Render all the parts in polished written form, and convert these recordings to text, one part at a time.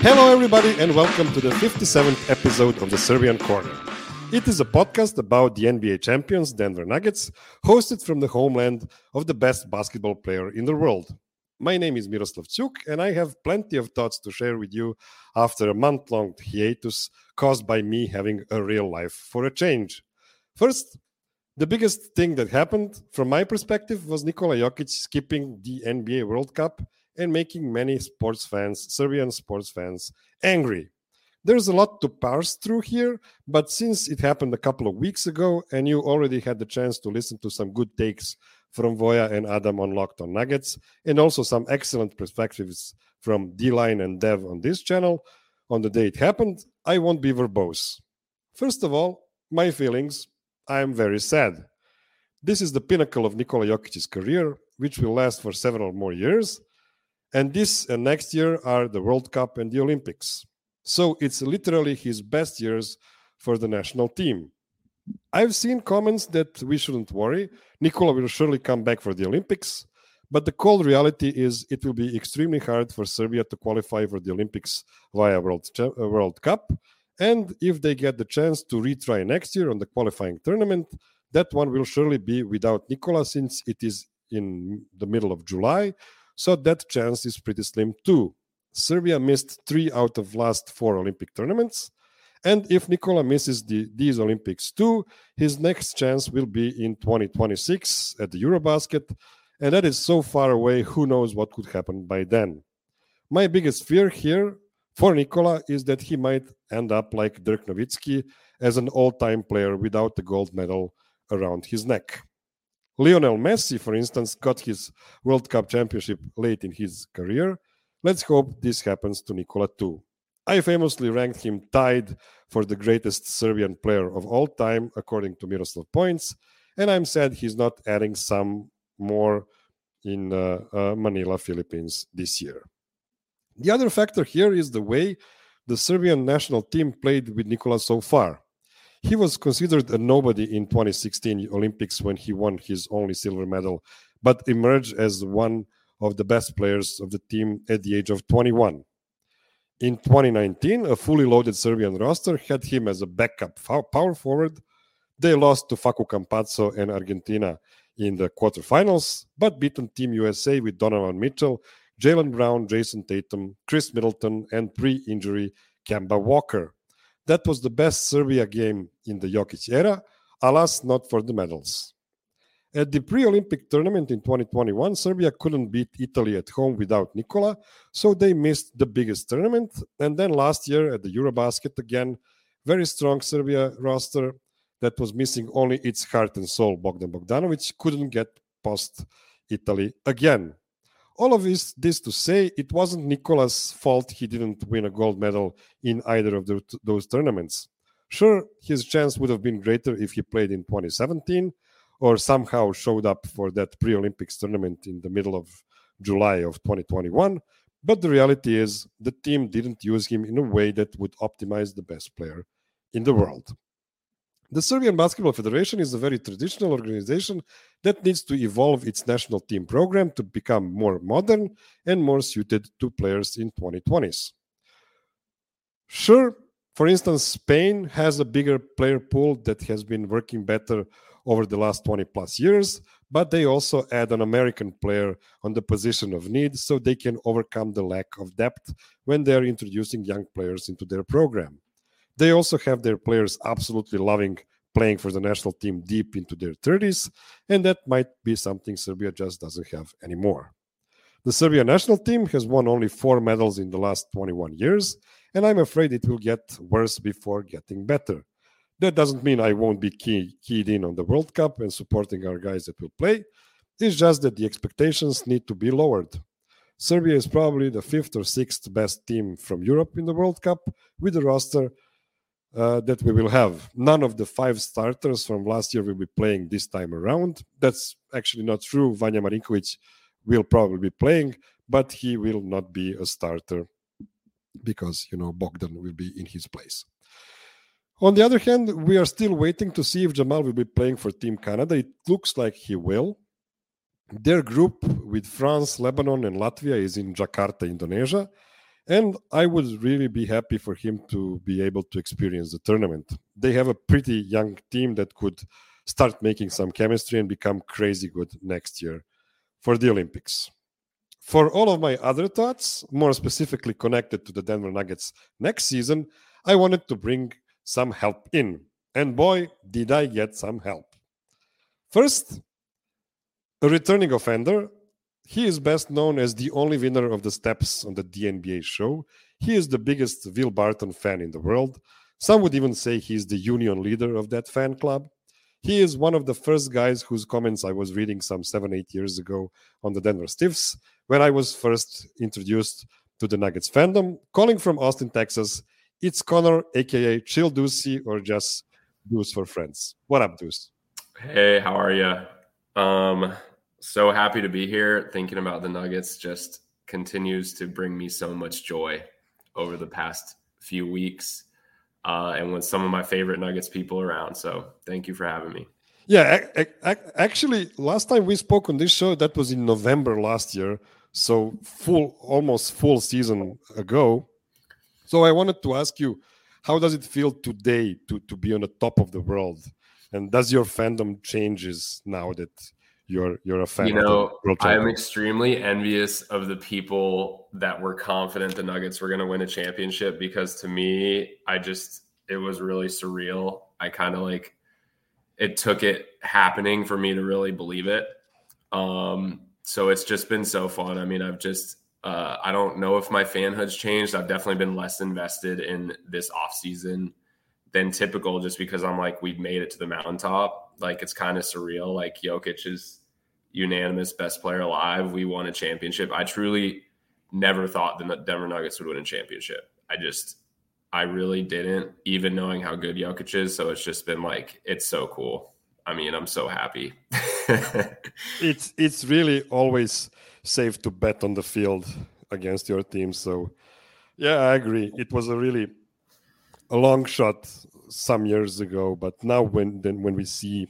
Hello, everybody, and welcome to the 57th episode of the Serbian Corner. It is a podcast about the NBA champions, Denver Nuggets, hosted from the homeland of the best basketball player in the world. My name is Miroslav Cuk, and I have plenty of thoughts to share with you after a month-long hiatus caused by me having a real life for a change. First, the biggest thing that happened, from my perspective, was Nikola Jokic skipping the NBA World Cup and making many Serbian sports fans, angry. There's a lot to parse through here, but since it happened a couple of weeks ago and you already had the chance to listen to some good takes from Voja and Adam on Locked On Nuggets, and also some excellent perspectives from D-Line and Dev on this channel on the day it happened, I won't be verbose. First of all, my feelings, I am very sad. This is the pinnacle of Nikola Jokic's career, which will last for several more years. And this and next year are the World Cup and the Olympics. So it's literally his best years for the national team. I've seen comments that we shouldn't worry. Nikola will surely come back for the Olympics. But the cold reality is it will be extremely hard for Serbia to qualify for the Olympics via World Cup. And if they get the chance to retry next year on the qualifying tournament, that one will surely be without Nikola since it is in the middle of July. So that chance is pretty slim too. Serbia missed 3 out of last 4 Olympic tournaments. And if Nikola misses these Olympics too, his next chance will be in 2026 at the Eurobasket. And that is so far away, who knows what could happen by then. My biggest fear here for Nikola is that he might end up like Dirk Nowitzki as an all-time player without the gold medal around his neck. Lionel Messi, for instance, got his World Cup championship late in his career. Let's hope this happens to Nikola too. I famously ranked him tied for the greatest Serbian player of all time, according to Miroslav Points, and I'm sad he's not adding some more in Manila, Philippines this year. The other factor here is the way the Serbian national team played with Nikola so far. He was considered a nobody in 2016 Olympics when he won his only silver medal, but emerged as one of the best players of the team at the age of 21. In 2019, a fully loaded Serbian roster had him as a backup power forward. They lost to Facu Campazzo and Argentina in the quarterfinals, but beaten Team USA with Donovan Mitchell, Jaylen Brown, Jason Tatum, Chris Middleton, and pre-injury Kemba Walker. That was the best Serbia game in the Jokic era, alas, not for the medals. At the pre-Olympic tournament in 2021, Serbia couldn't beat Italy at home without Nikola, so they missed the biggest tournament. And then last year at the Eurobasket again, very strong Serbia roster that was missing only its heart and soul. Bogdan Bogdanovic couldn't get past Italy again. All of this to say, it wasn't Nikola's fault he didn't win a gold medal in either of those tournaments. Sure, his chance would have been greater if he played in 2017 or somehow showed up for that pre-Olympics tournament in the middle of July of 2021, but the reality is the team didn't use him in a way that would optimize the best player in the world. The Serbian Basketball Federation is a very traditional organization that needs to evolve its national team program to become more modern and more suited to players in 2020s. Sure, for instance, Spain has a bigger player pool that has been working better over the last 20 plus years, but they also add an American player on the position of need so they can overcome the lack of depth when they're introducing young players into their program. They also have their players absolutely loving playing for the national team deep into their 30s, and that might be something Serbia just doesn't have anymore. The Serbia national team has won only 4 medals in the last 21 years, and I'm afraid it will get worse before getting better. That doesn't mean I won't be keyed in on the World Cup and supporting our guys that will play. It's just that the expectations need to be lowered. Serbia is probably the 5th or 6th best team from Europe in the World Cup with a roster that we will have. None of the 5 starters from last year will be playing this time around. That's actually not true. Vanja Marinkovic will probably be playing, but he will not be a starter because, Bogdan will be in his place. On the other hand, we are still waiting to see if Jamal will be playing for Team Canada. It looks like he will. Their group with France, Lebanon, and Latvia is in Jakarta, Indonesia. And I would really be happy for him to be able to experience the tournament. They have a pretty young team that could start making some chemistry and become crazy good next year for the Olympics. For all of my other thoughts, more specifically connected to the Denver Nuggets next season, I wanted to bring some help in. And boy, did I get some help. First, a returning offender. He is best known as the only winner of the steps on the DNBA show. He is the biggest Will Barton fan in the world. Some would even say he's the union leader of that fan club. He is one of the first guys whose comments I was reading some 7-8 years ago on the Denver Stiffs when I was first introduced to the Nuggets fandom. Calling from Austin, Texas, it's Connor, aka Chill Deucey, or just Deuce for friends. What up, Deuce? Hey, how are you? So happy to be here. Thinking about the Nuggets just continues to bring me so much joy over the past few weeks. And with some of my favorite Nuggets people around. So thank you for having me. Yeah, actually, last time we spoke on this show, that was in November last year. So almost full season ago. So I wanted to ask you, how does it feel today to be on the top of the world? And does your fandom changes now that you're a fan? I am extremely envious of the people that were confident the Nuggets were going to win a championship, because to me, it was really surreal. I kind of it took it happening for me to really believe it. So it's just been so fun. I mean, I don't know if my fanhood's changed. I've definitely been less invested in this offseason than typical, just because I'm we've made it to the mountaintop. It's kind of surreal. Jokic is unanimous best player alive. We won a championship. I truly never thought the Denver Nuggets would win a championship. I really didn't, even knowing how good Jokic is. So it's just been it's so cool. I mean, I'm so happy. It's really always safe to bet on the field against your team. So yeah, I agree. It was a long shot some years ago, but now when we see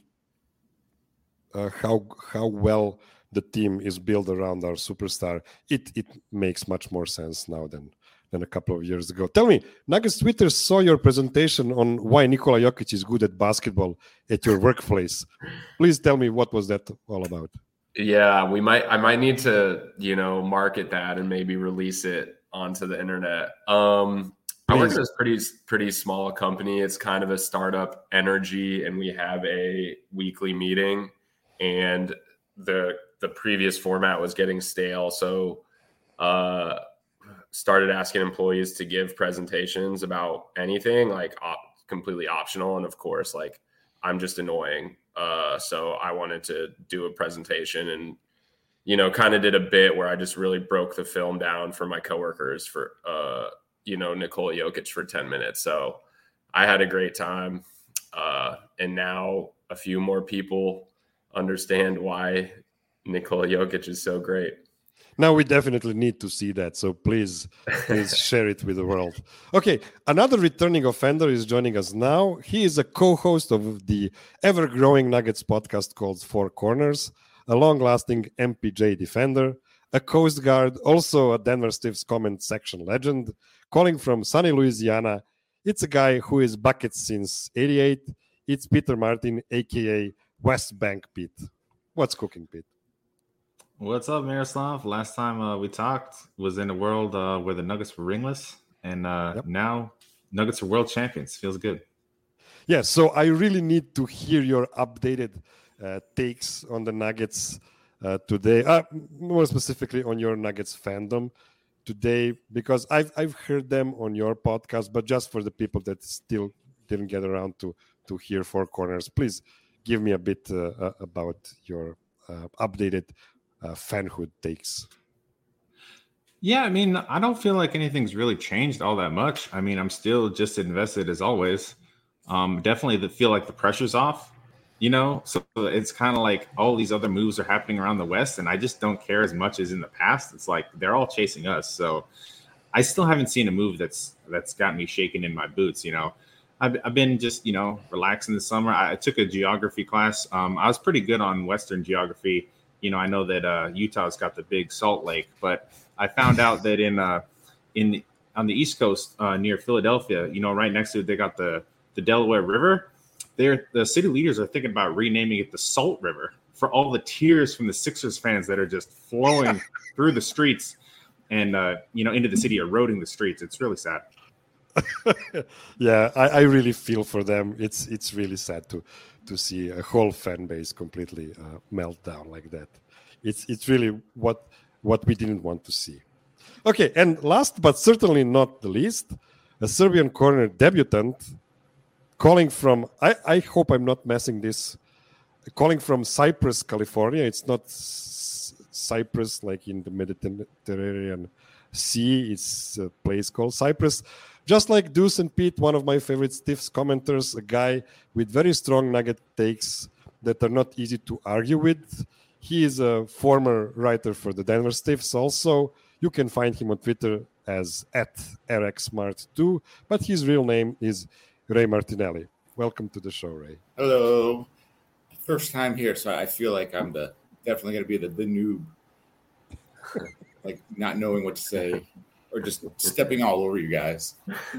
how well the team is built around our superstar, it makes much more sense now than a couple of years ago. Tell me, Nuggets Twitter saw your presentation on why Nikola Jokic is good at basketball at your workplace. Please tell me, what was that all about? Yeah, I might need to, market that and maybe release it onto the internet. I work at this pretty small company. It's kind of a startup energy, and we have a weekly meeting, and the previous format was getting stale. So, started asking employees to give presentations about anything, completely optional. And of course, I'm just annoying. So I wanted to do a presentation and, kind of did a bit where I just really broke the film down for my coworkers for, Nikola Jokic for 10 minutes. So I had a great time. And now a few more people understand why Nikola Jokic is so great. Now we definitely need to see that. So please share it with the world. Okay, another returning offender is joining us now. He is a co-host of the ever-growing Nuggets podcast called Four Corners, a long-lasting MPJ defender, a Coast Guard, also a Denver Stiffs comment section legend, calling from sunny Louisiana. It's a guy who is buckets since '88. It's Peter Martin, a.k.a. West Bank Pete. What's cooking, Pete? What's up, Miroslav? Last time we talked was in a world where the Nuggets were ringless, and now Nuggets are world champions. Feels good. Yeah, so I really need to hear your updated takes on the Nuggets today, more specifically on your Nuggets fandom today, because I've heard them on your podcast, but just for the people that still didn't get around to hear Four Corners, please give me a bit about your updated fanhood takes. Yeah, I mean, I don't feel like anything's really changed all that much. I mean, I'm still just invested as always. Definitely feel like the pressure's off, so it's kind of like all these other moves are happening around the West, and I just don't care as much as in the past. It's like they're all chasing us. So I still haven't seen a move that's got me shaking in my boots. I've been just, relaxing this summer. I took a geography class. I was pretty good on Western geography. I know that Utah's got the big Salt Lake, but I found out that on the East Coast near Philadelphia, right next to it, they got the Delaware River. The city leaders are thinking about renaming it the Salt River for all the tears from the Sixers fans that are just flowing through the streets and into the city, eroding the streets. It's really sad. Yeah, I really feel for them. It's really sad to see a whole fan base completely melt down like that. It's really what we didn't want to see. Okay, and last but certainly not the least, a Serbian corner debutant calling from, I hope I'm not messing this, calling from Cyprus, California. It's not Cyprus like in the Mediterranean Sea. It's a place called Cyprus. Just like Deuce and Pete, one of my favorite Stiffs commenters, a guy with very strong Nugget takes that are not easy to argue with. He is a former writer for the Denver Stiffs also. You can find him on Twitter as @RxSmart2, but his real name is Ray Martinelli. Welcome to the show, Ray. Hello. First time here, so I feel like I'm definitely going to be the noob, like not knowing what to say or just stepping all over you guys.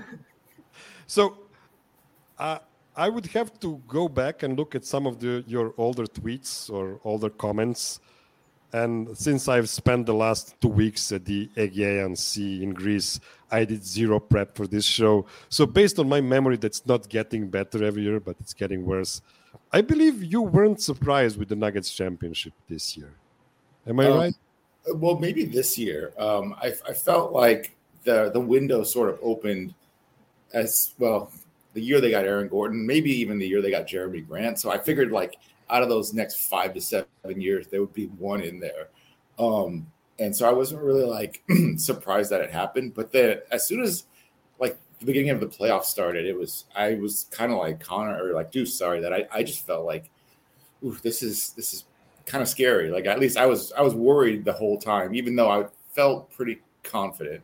So I would have to go back and look at some of your older tweets or older comments. And since I've spent the last 2 weeks at the Aegean Sea in Greece, I did zero prep for this show. So based on my memory, that's not getting better every year, but it's getting worse. I believe you weren't surprised with the Nuggets championship this year. Am I right? Well, maybe this year. I felt like the window sort of opened as well. The year they got Aaron Gordon, maybe even the year they got Jeremy Grant. So I figured like out of those next 5 to 7 years, there would be one in there. And so I wasn't really like surprised that it happened. But then as soon as like the beginning of the playoffs started, I was kind of like Connor or like Deuce, sorry, that I just felt like, ooh, this is kind of scary. Like at least I was worried the whole time, even though I felt pretty confident.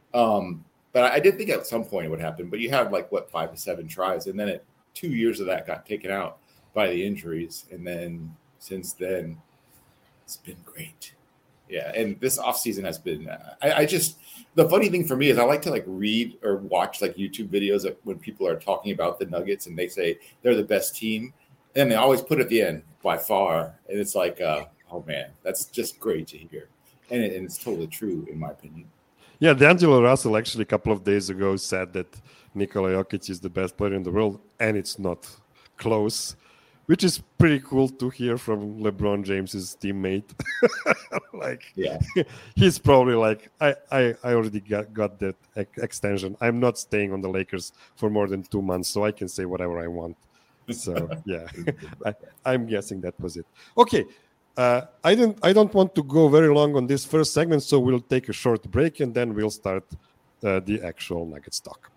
But I did think at some point it would happen. But you had like 5 to 7 tries, and then 2 years of that got taken out by the injuries, and then since then it's been great. Yeah, and this offseason has been I just the funny thing for me is I like to like read or watch like YouTube videos of when people are talking about the Nuggets and they say they're the best team, and they always put at the end by far, and it's like oh man, that's just great to hear, and it's totally true in my opinion. Yeah, D'Angelo Russell actually a couple of days ago said that Nikola Jokic is the best player in the world, and it's not close, which is pretty cool to hear from LeBron James's teammate. Like, yeah, he's probably like, I already got that extension. I'm not staying on the Lakers for more than 2 months, so I can say whatever I want. So yeah, I'm guessing that was it. Okay. I don't want to go very long on this first segment, so we'll take a short break and then we'll start the actual Nuggets talk.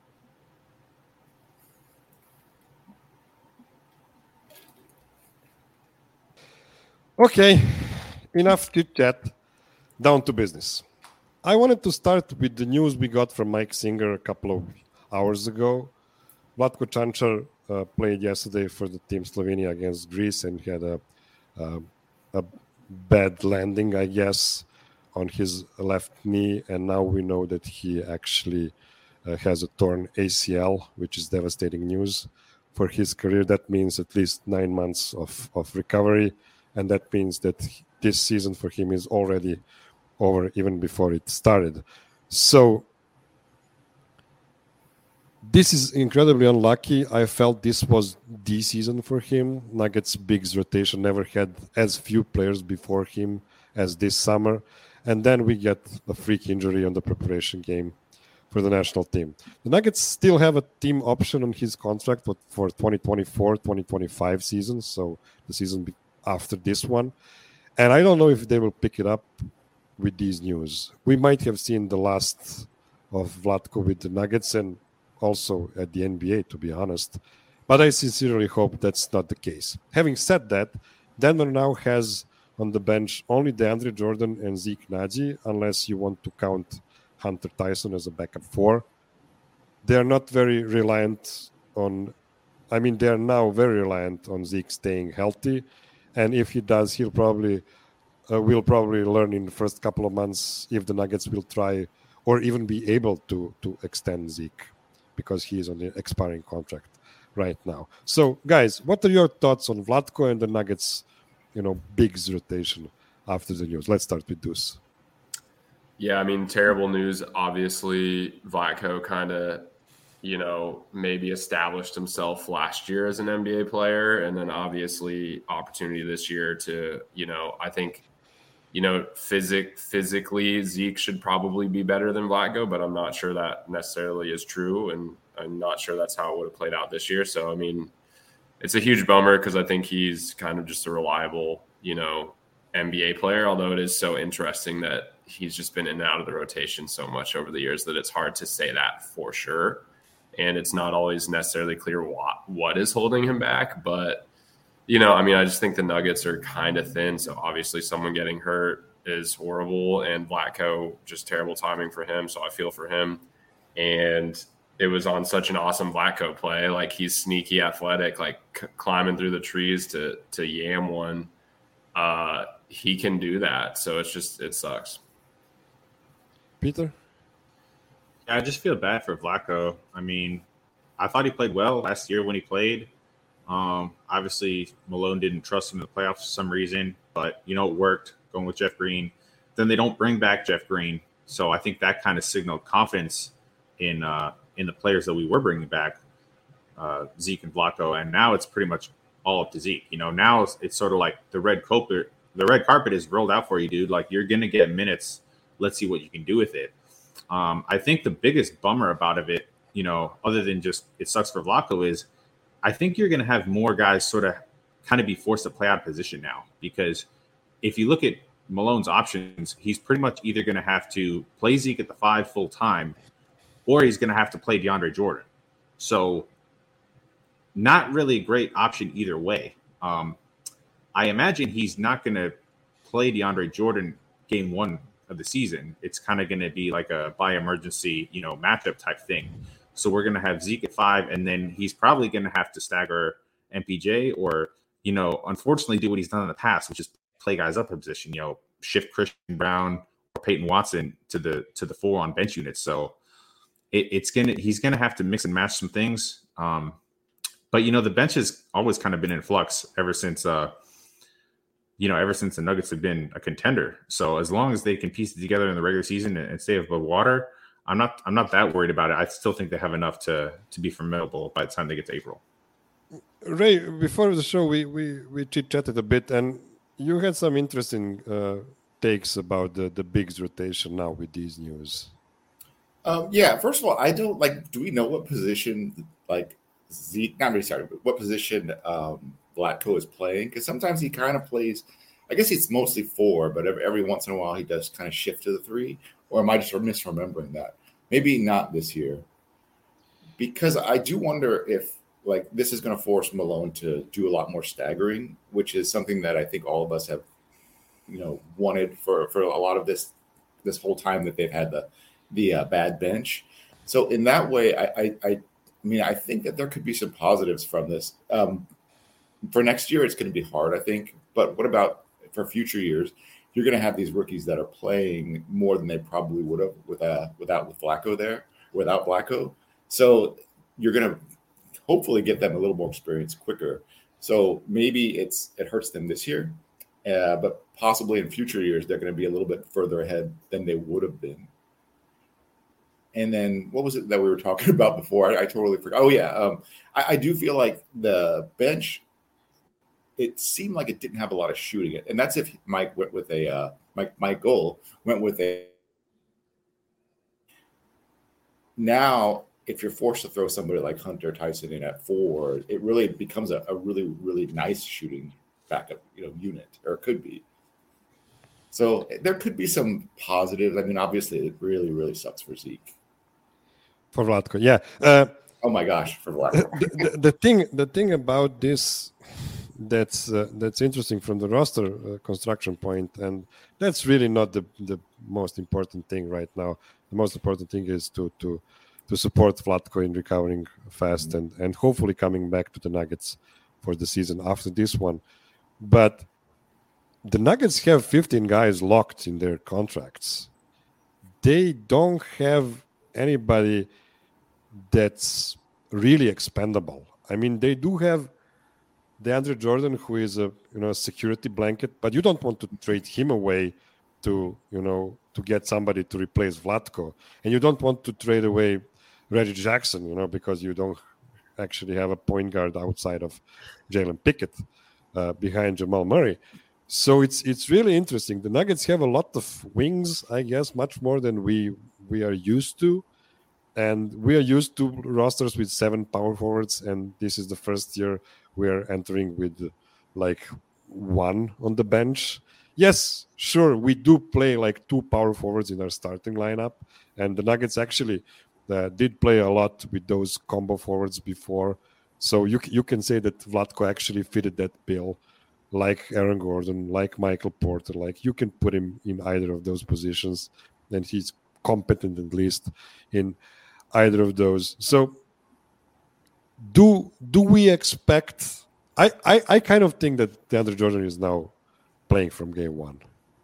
Okay, enough chit chat. Down to business. I wanted to start with the news we got from Mike Singer a couple of hours ago. Vlatko Čančar played yesterday for the team Slovenia against Greece and had a bad landing, I guess, on his left knee, and now we know that he actually has a torn ACL, which is devastating news for his career. That means at least 9 months of recovery, and that means that this season for him is already over even before it started. So this is incredibly unlucky. I felt this was the season for him. Nuggets' Bigs rotation never had as few players before him as this summer. And then we get a freak injury on the preparation game for the national team. The Nuggets still have a team option on his contract for 2024-2025 season, so the season after this one. And I don't know if they will pick it up with these news. We might have seen the last of Vlatko with the Nuggets and also at the NBA, to be honest. But I sincerely hope that's not the case. Having said that, Denver now has on the bench only DeAndre Jordan and Zeke Naji, unless you want to count Hunter Tyson as a backup 4. They're not very reliant on, they are now very reliant on Zeke staying healthy. And if he does, he'll probably will probably learn in the first couple of months if the Nuggets will try or even be able to extend Zeke because he is on the expiring contract right now. So, guys, what are your thoughts on Vlatko and the Nuggets, Bigs rotation after the news? Let's start with Deuce. Yeah, I mean, terrible news. Obviously, Vlatko kind of, maybe established himself last year as an NBA player, and then obviously opportunity this year to, I think, physically Zeke should probably be better than Vlatko, but I'm not sure that necessarily is true, and I'm not sure that's how it would have played out this year. So, I mean, it's a huge bummer because I think he's kind of just a reliable, NBA player, although it is so interesting that he's just been in and out of the rotation so much over the years that it's hard to say that for sure. And it's not always necessarily clear what is holding him back. But, I just think the Nuggets are kind of thin. So obviously someone getting hurt is horrible, and Vlatko, just terrible timing for him. So I feel for him. And it was on such an awesome Vlatko play. Like, he's sneaky athletic, like climbing through the trees to yam one. He can do that. So it sucks. Peter? Yeah, I just feel bad for Vlatko. I mean, I thought he played well last year when he played. Obviously, Malone didn't trust him in the playoffs for some reason, but, it worked going with Jeff Green. Then they don't bring back Jeff Green. So I think that kind of signaled confidence in the players that we were bringing back, Zeke and Vlatko. And now it's pretty much all up to Zeke. Now it's sort of like the red carpet is rolled out for you, dude. Like, you're going to get minutes. Let's see what you can do with it. I think the biggest bummer about it, other than just it sucks for Vlatko, is I think you're going to have more guys sort of kind of be forced to play out of position now. Because if you look at Malone's options, he's pretty much either going to have to play Zeke at the 5 full time, or he's going to have to play DeAndre Jordan. So not really a great option either way. I imagine he's not going to play DeAndre Jordan game 1 of the season. It's kind of going to be like a by emergency, matchup type thing. So we're going to have Zeke at 5, and then he's probably going to have to stagger MPJ or, unfortunately do what he's done in the past, which is play guys up in position, shift Christian Brown or Peyton Watson to the 4 on bench units. So he's going to have to mix and match some things. But, the bench has always kind of been in flux ever since the Nuggets have been a contender. So as long as they can piece it together in the regular season and stay above water, I'm not that worried about it. I still think they have enough to be formidable by the time they get to April. Ray, before the show, we chit-chatted a bit, and you had some interesting takes about the Bigs rotation now with these news. Yeah, first of all, I don't do we know what position Zeke, not really sorry, but what position Vlatko is playing? Because sometimes he kind of plays, I guess it's mostly 4, but every once in a while he does kind of shift to the 3. Or am I just misremembering that? Maybe not this year. Because I do wonder if this is going to force Malone to do a lot more staggering, which is something that I think all of us have, wanted for a lot of this whole time that they've had the bad bench. So in that way, I think that there could be some positives from this. For next year, it's going to be hard, I think. But what about for future years? You're going to have these rookies that are playing more than they probably would have without Vlatko there, without Vlatko. So you're going to hopefully get them a little more experience quicker. So maybe it hurts them this year, but possibly in future years, they're going to be a little bit further ahead than they would have been. And then what was it that we were talking about before? I totally forgot. Oh, yeah. I do feel like the bench, it seemed like it didn't have a lot of shooting. And that's if Mike went with Mike Gold went with a. Now, if you're forced to throw somebody like Hunter Tyson in at 4, it really becomes a really, really nice shooting backup, unit, or it could be. So there could be some positives. I mean, obviously, it really, really sucks for Zeke. For Vlatko, yeah. Oh my gosh, for Vlatko. The thing about this that's interesting from the roster construction point, and that's really not the most important thing right now. The most important thing is to support Vlatko in recovering fast and hopefully coming back to the Nuggets for the season after this one. But the Nuggets have 15 guys locked in their contracts. they don't have anybody that's really expendable. I mean, they do have DeAndre Jordan, who is a security blanket, but you don't want to trade him away to get somebody to replace Vlatko, and you don't want to trade away Reggie Jackson, because you don't actually have a point guard outside of Jalen Pickett behind Jamal Murray. So it's really interesting. The Nuggets have a lot of wings, I guess, much more than we are used to. And we are used to rosters with 7 power forwards, and this is the first year we are entering with like 1 on the bench. Yes, sure, we do play like 2 power forwards in our starting lineup, and the Nuggets actually did play a lot with those combo forwards before. So you can say that Vlatko actually fitted that bill, like Aaron Gordon, like Michael Porter. Like, you can put him in either of those positions, and he's competent at least in either of those. So do we expect... I kind of think that DeAndre Jordan is now playing from game 1.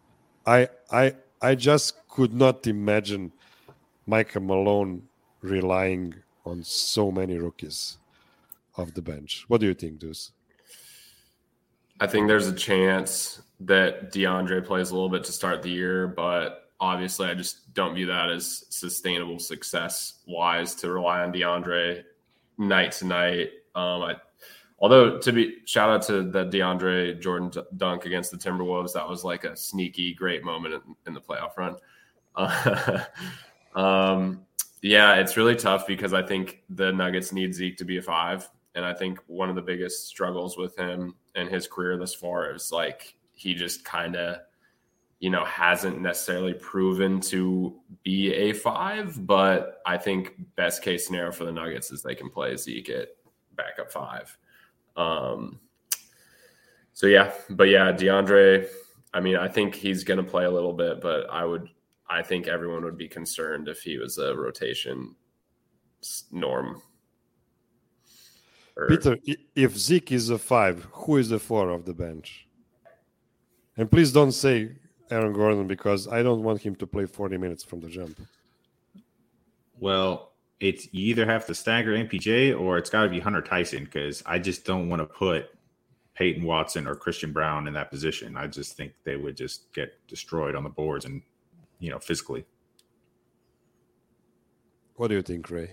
I just could not imagine Michael Malone relying on so many rookies off the bench. What do you think, Deuce? I think there's a chance that DeAndre plays a little bit to start the year, but obviously I just don't view that as sustainable success-wise to rely on DeAndre night to night. Although, shout out to the DeAndre Jordan dunk against the Timberwolves. That was like a sneaky, great moment in the playoff run. Yeah, it's really tough because I think the Nuggets need Zeke to be a 5. And I think one of the biggest struggles with him and his career thus far is like he just kind of, hasn't necessarily proven to be a 5. But I think best case scenario for the Nuggets is they can play Zeke at backup 5. DeAndre, I mean, I think he's going to play a little bit, but I think everyone would be concerned if he was a rotation norm. Peter, if Zeke is a 5, who is the 4 of the bench? And please don't say Aaron Gordon, because I don't want him to play 40 minutes from the jump. Well, you either have to stagger MPJ or it's got to be Hunter Tyson, because I just don't want to put Peyton Watson or Christian Brown in that position. I just think they would just get destroyed on the boards and, physically. What do you think, Ray?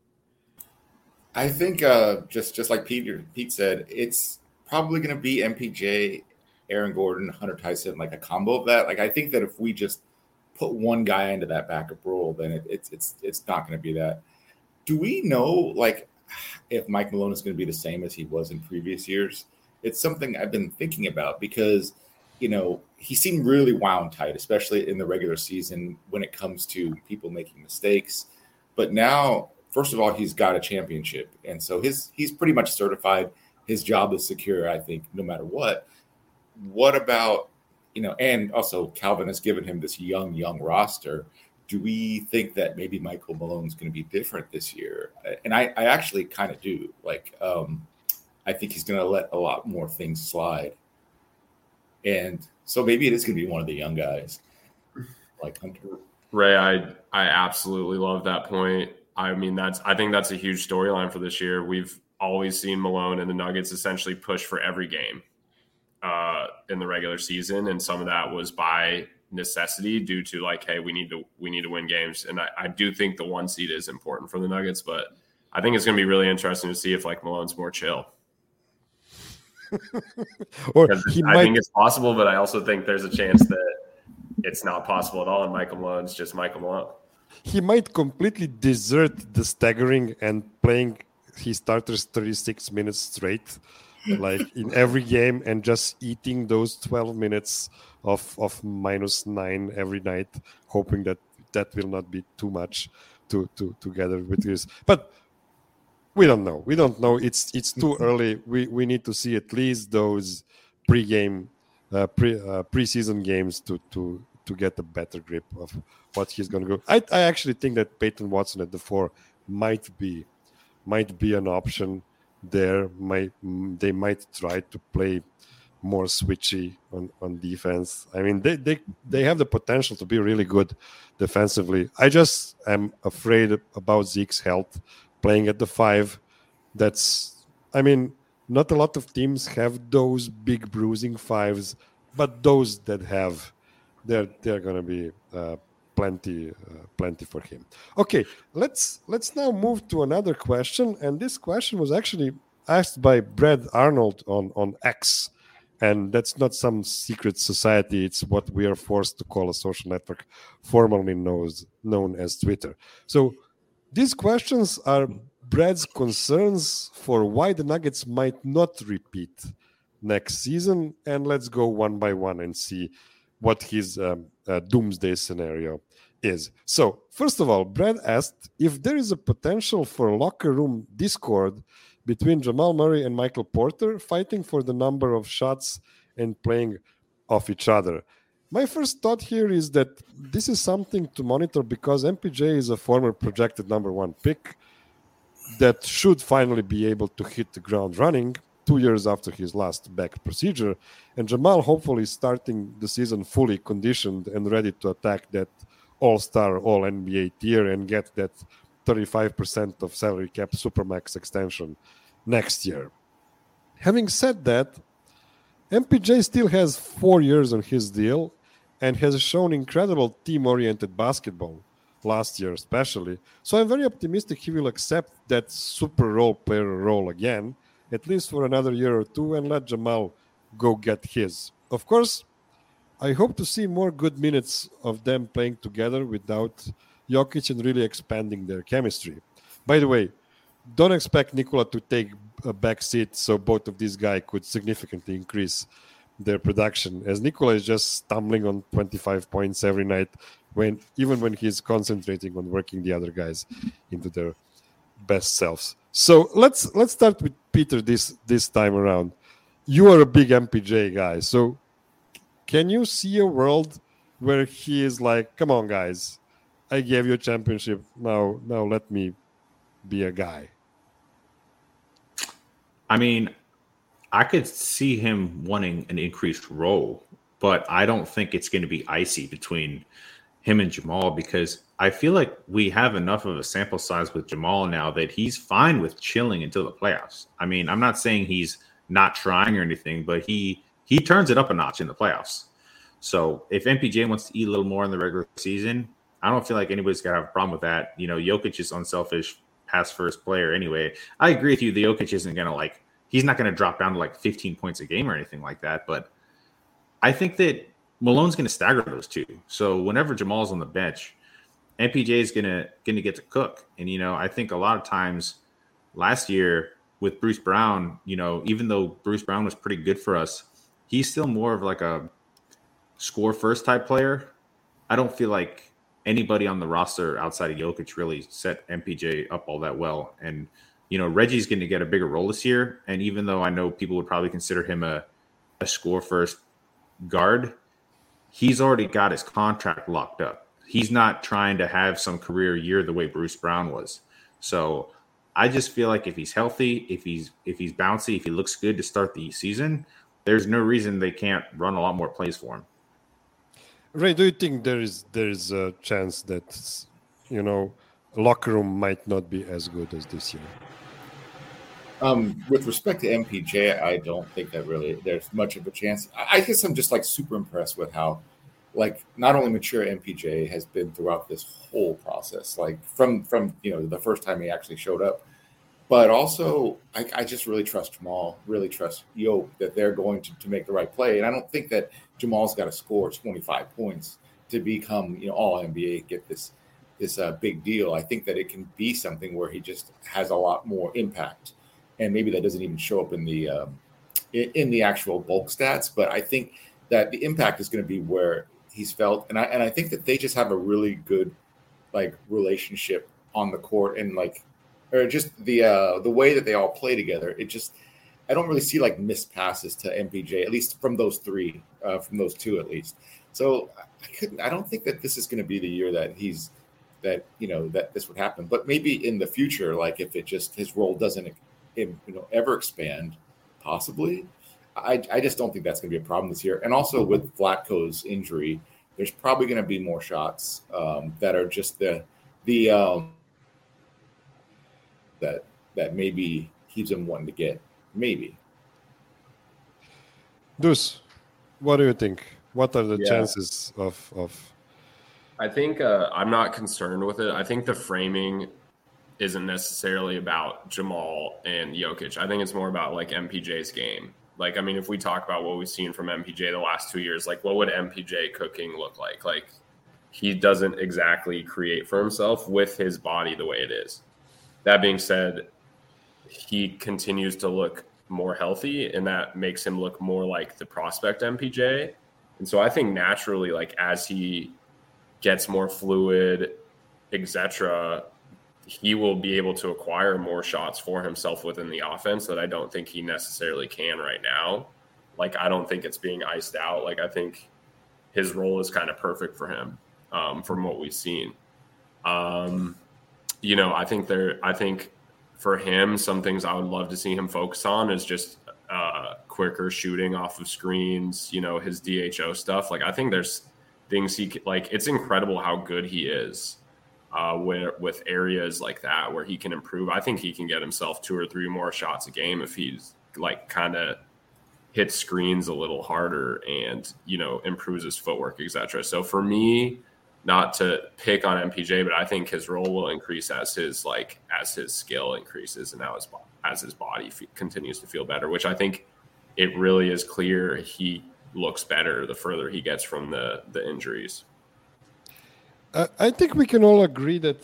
I think just like Pete said, it's probably going to be MPJ, Aaron Gordon, Hunter Tyson, like a combo of that. Like, I think that if we just put one guy into that backup role, then it's not going to be that. Do we know, like, if Mike Malone is going to be the same as he was in previous years? It's something I've been thinking about because, he seemed really wound tight, especially in the regular season when it comes to people making mistakes. But now, first of all, he's got a championship. And so he's pretty much certified. His job is secure, I think, no matter what. What about, and also Calvin has given him this young roster. Do we think that maybe Michael Malone's going to be different this year? And I actually kind of do. Like, I think he's going to let a lot more things slide. And so maybe it is going to be one of the young guys like Hunter. Ray, I absolutely love that point. I mean, I think that's a huge storyline for this year. We've always seen Malone and the Nuggets essentially push for every game in the regular season. And some of that was by necessity due to like, hey, we need to win games. And I do think the 1 seed is important for the Nuggets, but I think it's going to be really interesting to see if like Malone's more chill. Or I think it's possible, but I also think there's a chance that it's not possible at all. And Michael Malone's just Michael Malone. He might completely desert the staggering and playing his starters 36 minutes straight, like in every game, and just eating those 12 minutes of -9 every night, hoping that will not be too much to together with this. But we don't know. It's too early. We need to see at least those preseason games to get a better grip of what he's going to go. I actually think that Peyton Watson at the 4 might be an option there. They might try to play more switchy on defense. I mean, they have the potential to be really good defensively. I just am afraid about Zeke's health playing at the 5. I mean, not a lot of teams have those big bruising 5s, but those that have, they're going to be plenty for him. Okay, let's now move to another question, and this question was actually asked by Brad Arnold on X, and that's not some secret society. It's what we are forced to call a social network, formerly known as Twitter. So these questions are Brad's concerns for why the Nuggets might not repeat next season, and let's go one by one and see what his doomsday scenario is. So, first of all, Brad asked if there is a potential for locker room discord between Jamal Murray and Michael Porter, fighting for the number of shots and playing off each other. My first thought here is that this is something to monitor because MPJ is a former projected number 1 pick that should finally be able to hit the ground running 2 years after his last back procedure, and Jamal hopefully starting the season fully conditioned and ready to attack that all-star, all-NBA tier and get that 35% of salary cap supermax extension next year. Having said that, MPJ still has 4 years on his deal and has shown incredible team-oriented basketball last year especially. So I'm very optimistic he will accept that super role player role again, at least for another year or two, and let Jamal go get his. Of course, I hope to see more good minutes of them playing together without Jokic and really expanding their chemistry. By the way, don't expect Nikola to take a back seat so both of these guys could significantly increase their production, as Nikola is just stumbling on 25 points every night, even when he's concentrating on working the other guys into their best selves. So let's start with Peter this time around. You are a big MPJ guy, so can you see a world where he is like, come on guys, I gave you a championship, now let me be a guy? I mean, I could see him wanting an increased role, but I don't think it's going to be icy between him and Jamal, because I feel like we have enough of a sample size with Jamal now that he's fine with chilling until the playoffs. I mean, I'm not saying he's not trying or anything, but he turns it up a notch in the playoffs. So if MPJ wants to eat a little more in the regular season, I don't feel like anybody's got to have a problem with that. You know, Jokic is unselfish pass first player anyway. I agree with you. The Jokic isn't going to he's not going to drop down to like 15 points a game or anything like that. But I think that Malone's going to stagger those two. So whenever Jamal's on the bench, MPJ is going to get to cook. And, you know, I think a lot of times last year with Bruce Brown, you know, even though Bruce Brown was pretty good for us, he's still more of like a score first type player. I don't feel like anybody on the roster outside of Jokic really set MPJ up all that well. And, you know, Reggie's going to get a bigger role this year. And even though I know people would probably consider him a score first guard, he's already got his contract locked up. He's not trying to have some career year the way Bruce Brown was. So I just feel like if he's healthy, if he's bouncy, if he looks good to start the season, there's no reason they can't run a lot more plays for him. Ray, do you think there is a chance that, you know, locker room might not be as good as this year? With respect to MPJ, I don't think that really there's much of a chance. I guess I'm just like super impressed with how, like, not only mature MPJ has been throughout this whole process, like from you know the first time he actually showed up, but also I just really trust Jamal, really trust Yo that they're going to make the right play, and I don't think that Jamal's got to score 25 points to become, you know, all NBA, get this big deal. I think that it can be something where he just has a lot more impact. And maybe that doesn't even show up in the actual bulk stats, but I think that the impact is going to be where he's felt, and I think that they just have a really good like relationship on the court, and like, or just the way that they all play together. It just, I don't really see like missed passes to MPJ, at least from those three, from those two at least. So I don't think that this is going to be the year that that this would happen. But maybe in the future, like if it just his role doesn't ever expand, possibly. I just don't think that's going to be a problem this year. And also with Vlatko's injury, there's probably going to be more shots that are just that maybe keeps him wanting to get. Maybe. Deuce, what do you think? What are the chances of? I think I'm not concerned with it. I think the framing isn't necessarily about Jamal and Jokic. I think it's more about like MPJ's game. Like, I mean, if we talk about what we've seen from MPJ the last 2 years, like what would MPJ cooking look like? Like he doesn't exactly create for himself with his body the way it is. That being said, he continues to look more healthy, and that makes him look more like the prospect MPJ. And so I think naturally, like as he gets more fluid, etc., he will be able to acquire more shots for himself within the offense that I don't think he necessarily can right now. Like, I don't think it's being iced out. Like, I think his role is kind of perfect for him from what we've seen. I think for him, some things I would love to see him focus on is just quicker shooting off of screens, his DHO stuff. Like, I think there's things it's incredible how good he is. With areas like that where he can improve. I think he can get himself 2 or 3 more shots a game if he's like kind of hits screens a little harder and, improves his footwork, etc. So for me, not to pick on MPJ, but I think his role will increase as his skill increases and now as his body continues to feel better, which I think it really is clear he looks better the further he gets from the injuries. I think we can all agree that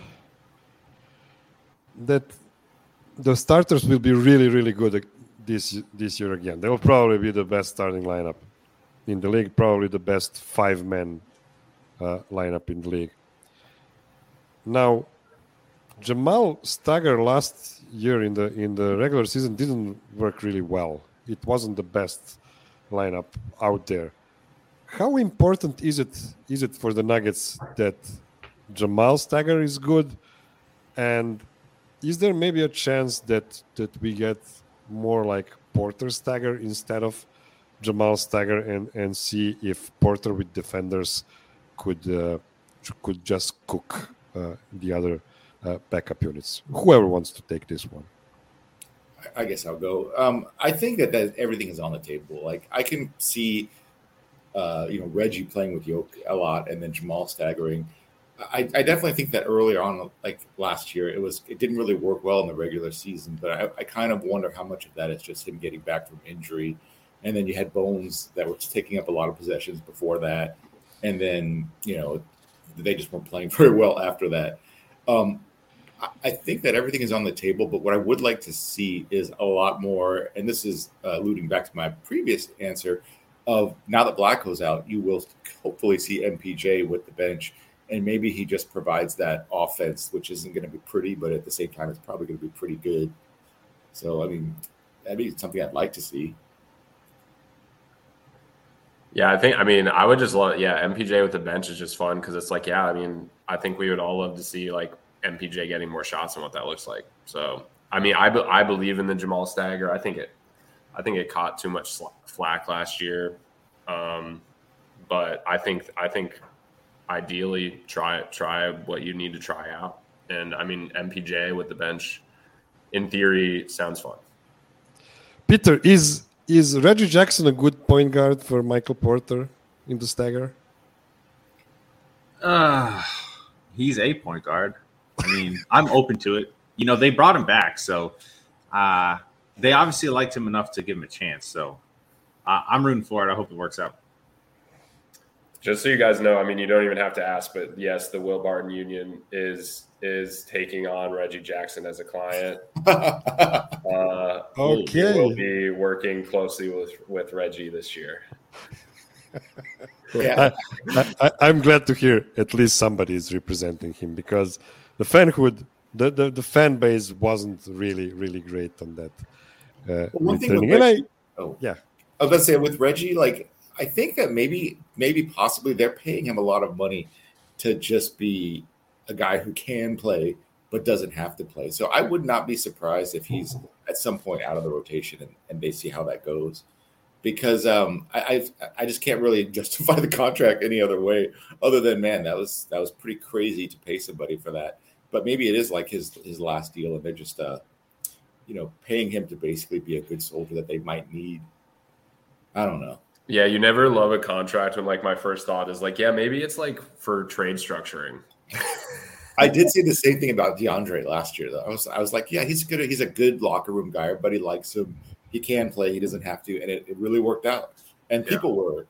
the starters will be really, really good this year again. They will probably be the best starting lineup in the league, probably the best 5-man lineup in the league. Now, Jamal Stagger last year in the regular season didn't work really well. It wasn't the best lineup out there. How important is it for the Nuggets that Jamal Stagger is good, and is there maybe a chance that we get more like Porter Stagger instead of Jamal Stagger, and see if Porter with defenders could just cook the other backup units? Whoever wants to take this one. I guess I'll go. I think that everything is on the table. Like I can see. Reggie playing with Yoke a lot and then Jamal staggering. I definitely think that earlier on, like last year, it didn't really work well in the regular season, but I kind of wonder how much of that is just him getting back from injury. And then you had Bones that was taking up a lot of possessions before that. And then, they just weren't playing very well after that. I think that everything is on the table, but what I would like to see is a lot more, and this is alluding back to my previous answer, of now that Vlatko's out, you will hopefully see MPJ with the bench, and maybe he just provides that offense, which isn't going to be pretty, but at the same time, it's probably going to be pretty good. So, I mean, that'd be something I'd like to see. Yeah, I would just love, MPJ with the bench is just fun because it's like, I think we would all love to see like MPJ getting more shots and what that looks like. So, I believe in the Jamal Stagger. I think it caught too much flack last year, but I think ideally try what you need to try out. And MPJ with the bench, in theory, sounds fun. Peter, is Reggie Jackson a good point guard for Michael Porter in the Stagger? He's a point guard. I'm open to it. They brought him back, so they obviously liked him enough to give him a chance. So I'm rooting for it. I hope it works out. Just so you guys know, you don't even have to ask, but yes, the Will Barton Union is taking on Reggie Jackson as a client. Okay. We'll be working closely with Reggie this year. Yeah, I'm glad to hear at least somebody is representing him, because the fanhood, the fan base wasn't really, really great on that. one thing with Reggie, I was going to say with Reggie, like I think that maybe possibly they're paying him a lot of money to just be a guy who can play but doesn't have to play. So I would not be surprised if he's at some point out of the rotation and they see how that goes. because I just can't really justify the contract any other way other than, man, that was pretty crazy to pay somebody for that. But maybe it is like his last deal, and they're just paying him to basically be a good soldier that they might need. I don't know. Yeah, you never love a contract when, like, my first thought is like, yeah, maybe it's like for trade structuring. I did say the same thing about DeAndre last year, though. I was like, yeah, he's a good locker room guy. Everybody likes him. He can play. He doesn't have to, and it really worked out. And people were.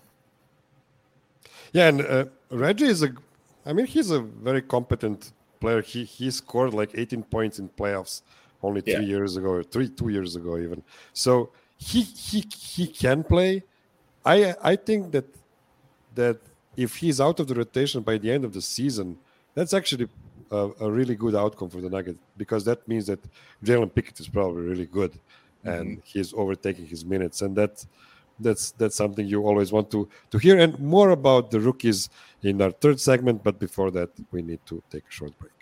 Yeah, and Reggie he's a very competent player. He scored like 18 points in playoffs only 2 years ago, 2 years ago even. So he can play. I think that if he's out of the rotation by the end of the season, that's actually a really good outcome for the Nuggets, because that means that Jalen Pickett is probably really good, and he's overtaking his minutes, and that's something you always want to hear. And more about the rookies in our third segment, but before that, we need to take a short break.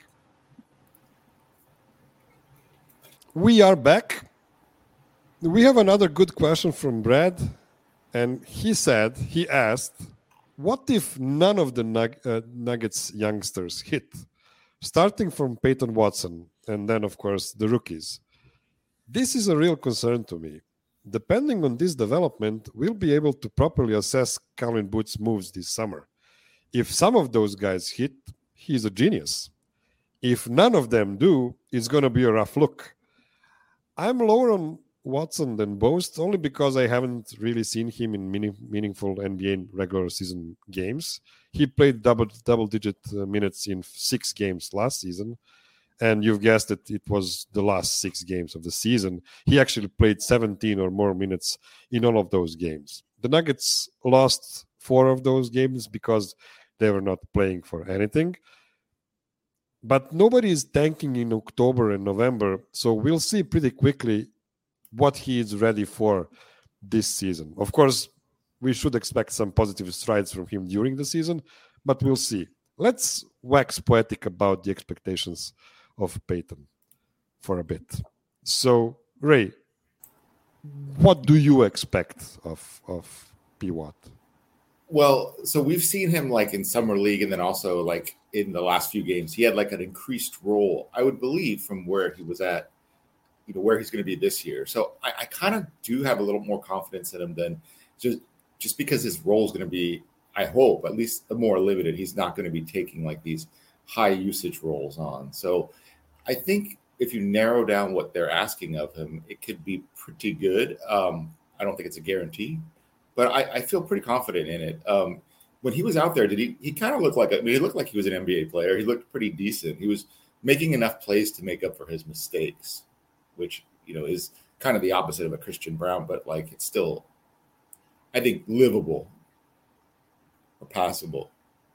We are back. We have another good question from Brad, and he asked, what if none of the Nuggets youngsters hit? Starting from Peyton Watson, and then, of course, the rookies. This is a real concern to me. Depending on this development, we'll be able to properly assess Calvin Booth's moves this summer. If some of those guys hit, he's a genius. If none of them do, it's going to be a rough look. I'm lower on Watson than Boast, only because I haven't really seen him in meaningful NBA regular season games. He played double-digit minutes in 6 games last season, and you've guessed it, it was the last 6 games of the season. He actually played 17 or more minutes in all of those games. The Nuggets lost 4 of those games because they were not playing for anything. But nobody is tanking in October and November, so we'll see pretty quickly what he is ready for this season. Of course, we should expect some positive strides from him during the season, but we'll see. Let's wax poetic about the expectations of Peyton for a bit. So, Ray, what do you expect of P. Watt? Well, so we've seen him like in summer league, and then also like in the last few games, he had like an increased role, I would believe, from where he was at, where he's going to be this year. So I kind of do have a little more confidence in him than just because his role is going to be, I hope, at least more limited. He's not going to be taking like these high usage roles on. So I think if you narrow down what they're asking of him, it could be pretty good. I don't think it's a guarantee, but I feel pretty confident in it. When he was out there, he kind of looked like, he looked like he was an NBA player. He looked pretty decent. He was making enough plays to make up for his mistakes, which, is kind of the opposite of a Christian Brown, but like it's still, I think, livable or passable.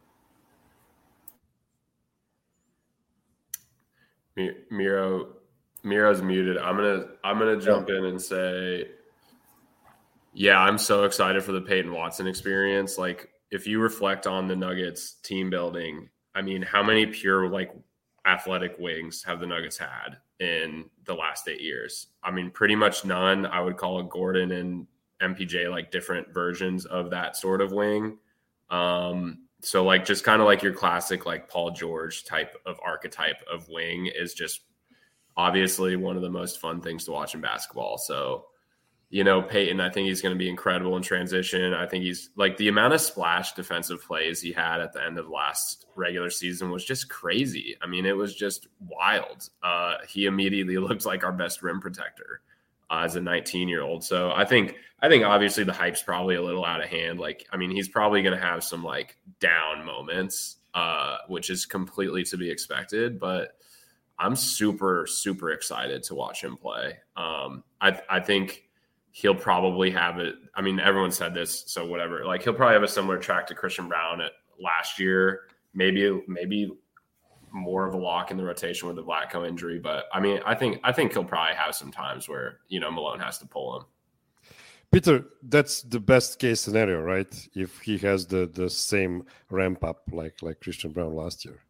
Miro's muted. I'm gonna jump in and say, yeah, I'm so excited for the Peyton Watson experience. Like, if you reflect on the Nuggets team building, I mean, how many pure like athletic wings have the Nuggets had in the last 8 years? I mean, pretty much none. I would call it Gordon and MPJ like different versions of that sort of wing. So like just kind of like your classic like Paul George type of archetype of wing is just obviously one of the most fun things to watch in basketball. So, Peyton, I think he's going to be incredible in transition. I think he's like the amount of splash defensive plays he had at the end of last regular season was just crazy. I mean, it was just wild. He immediately looked like our best rim protector as a 19-year-old. So I think obviously the hype's probably a little out of hand. Like, I mean, he's probably going to have some like down moments, which is completely to be expected, but I'm super, super excited to watch him play. I think he'll probably have it. I mean, everyone said this, so whatever. Like, he'll probably have a similar track to Christian Brown at last year. Maybe more of a lock in the rotation with the Vlatko injury. But I mean, I think he'll probably have some times where Malone has to pull him. Peter, that's the best case scenario, right? If he has the same ramp up like Christian Brown last year.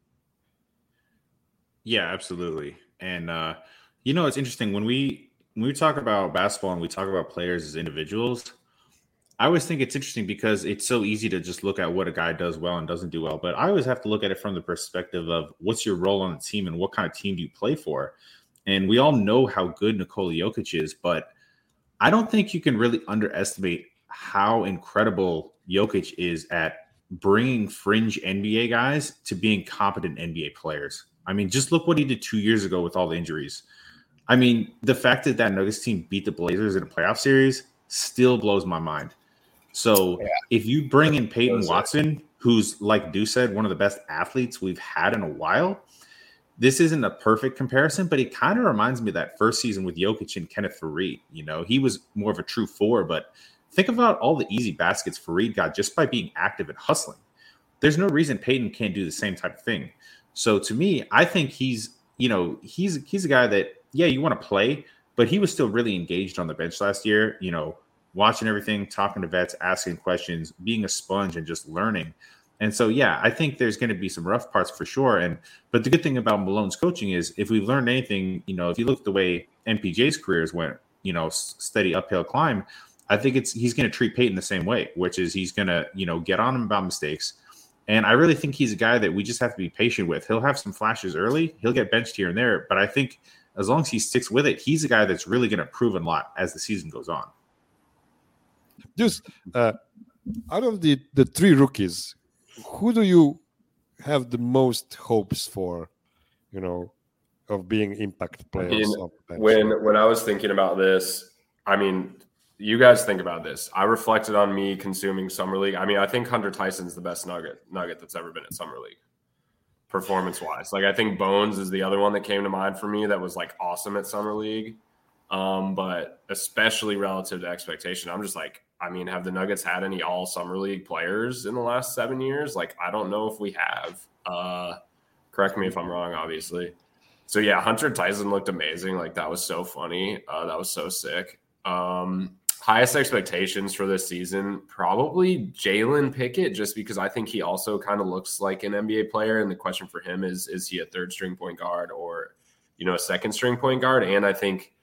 Yeah, absolutely. And it's interesting when we talk about basketball and we talk about players as individuals, I always think it's interesting because it's so easy to just look at what a guy does well and doesn't do well. But I always have to look at it from the perspective of what's your role on the team and what kind of team do you play for? And we all know how good Nikola Jokic is, but I don't think you can really underestimate how incredible Jokic is at bringing fringe NBA guys to being competent NBA players. I mean, just look what he did 2 years ago with all the injuries. I mean, the fact that Nuggets team beat the Blazers in a playoff series still blows my mind. So if you bring in Peyton Watson, who's, like Dew said, one of the best athletes we've had in a while, this isn't a perfect comparison, but it kind of reminds me of that first season with Jokic and Kenneth Faried. You know, he was more of a true four, but think about all the easy baskets Faried got just by being active and hustling. There's no reason Peyton can't do the same type of thing. So to me, I think he's a guy that, yeah, you want to play, but he was still really engaged on the bench last year, you know, watching everything, talking to vets, asking questions, being a sponge and just learning. And so, yeah, I think there's going to be some rough parts for sure. But the good thing about Malone's coaching is if we've learned anything, you know, if you look at the way MPJ's careers went, you know, steady uphill climb, I think he's going to treat Peyton the same way, which is he's going to, you know, get on him about mistakes. And I really think he's a guy that we just have to be patient with. He'll have some flashes early. He'll get benched here and there. But I think as long as he sticks with it, he's a guy that's really going to prove a lot as the season goes on. Just out of the three rookies, who do you have the most hopes for, you know, of being impact players? When I was thinking about this, I mean, you guys think about this. I reflected on me consuming Summer League. I mean, I think Hunter Tyson's the best nugget that's ever been at Summer League, performance-wise. Like, I think Bones is the other one that came to mind for me that was, like, awesome at Summer League. But especially relative to expectation, I'm just like, I mean, have the Nuggets had any all Summer League players in the last 7 years? Like, I don't know if we have. Correct me if I'm wrong, obviously. So, yeah, Hunter Tyson looked amazing. Like, that was so funny. That was so sick. Highest expectations for this season, probably Jalen Pickett, just because I think he also kind of looks like an NBA player. And the question for him is he a third string point guard or, you know, a second string point guard? And I think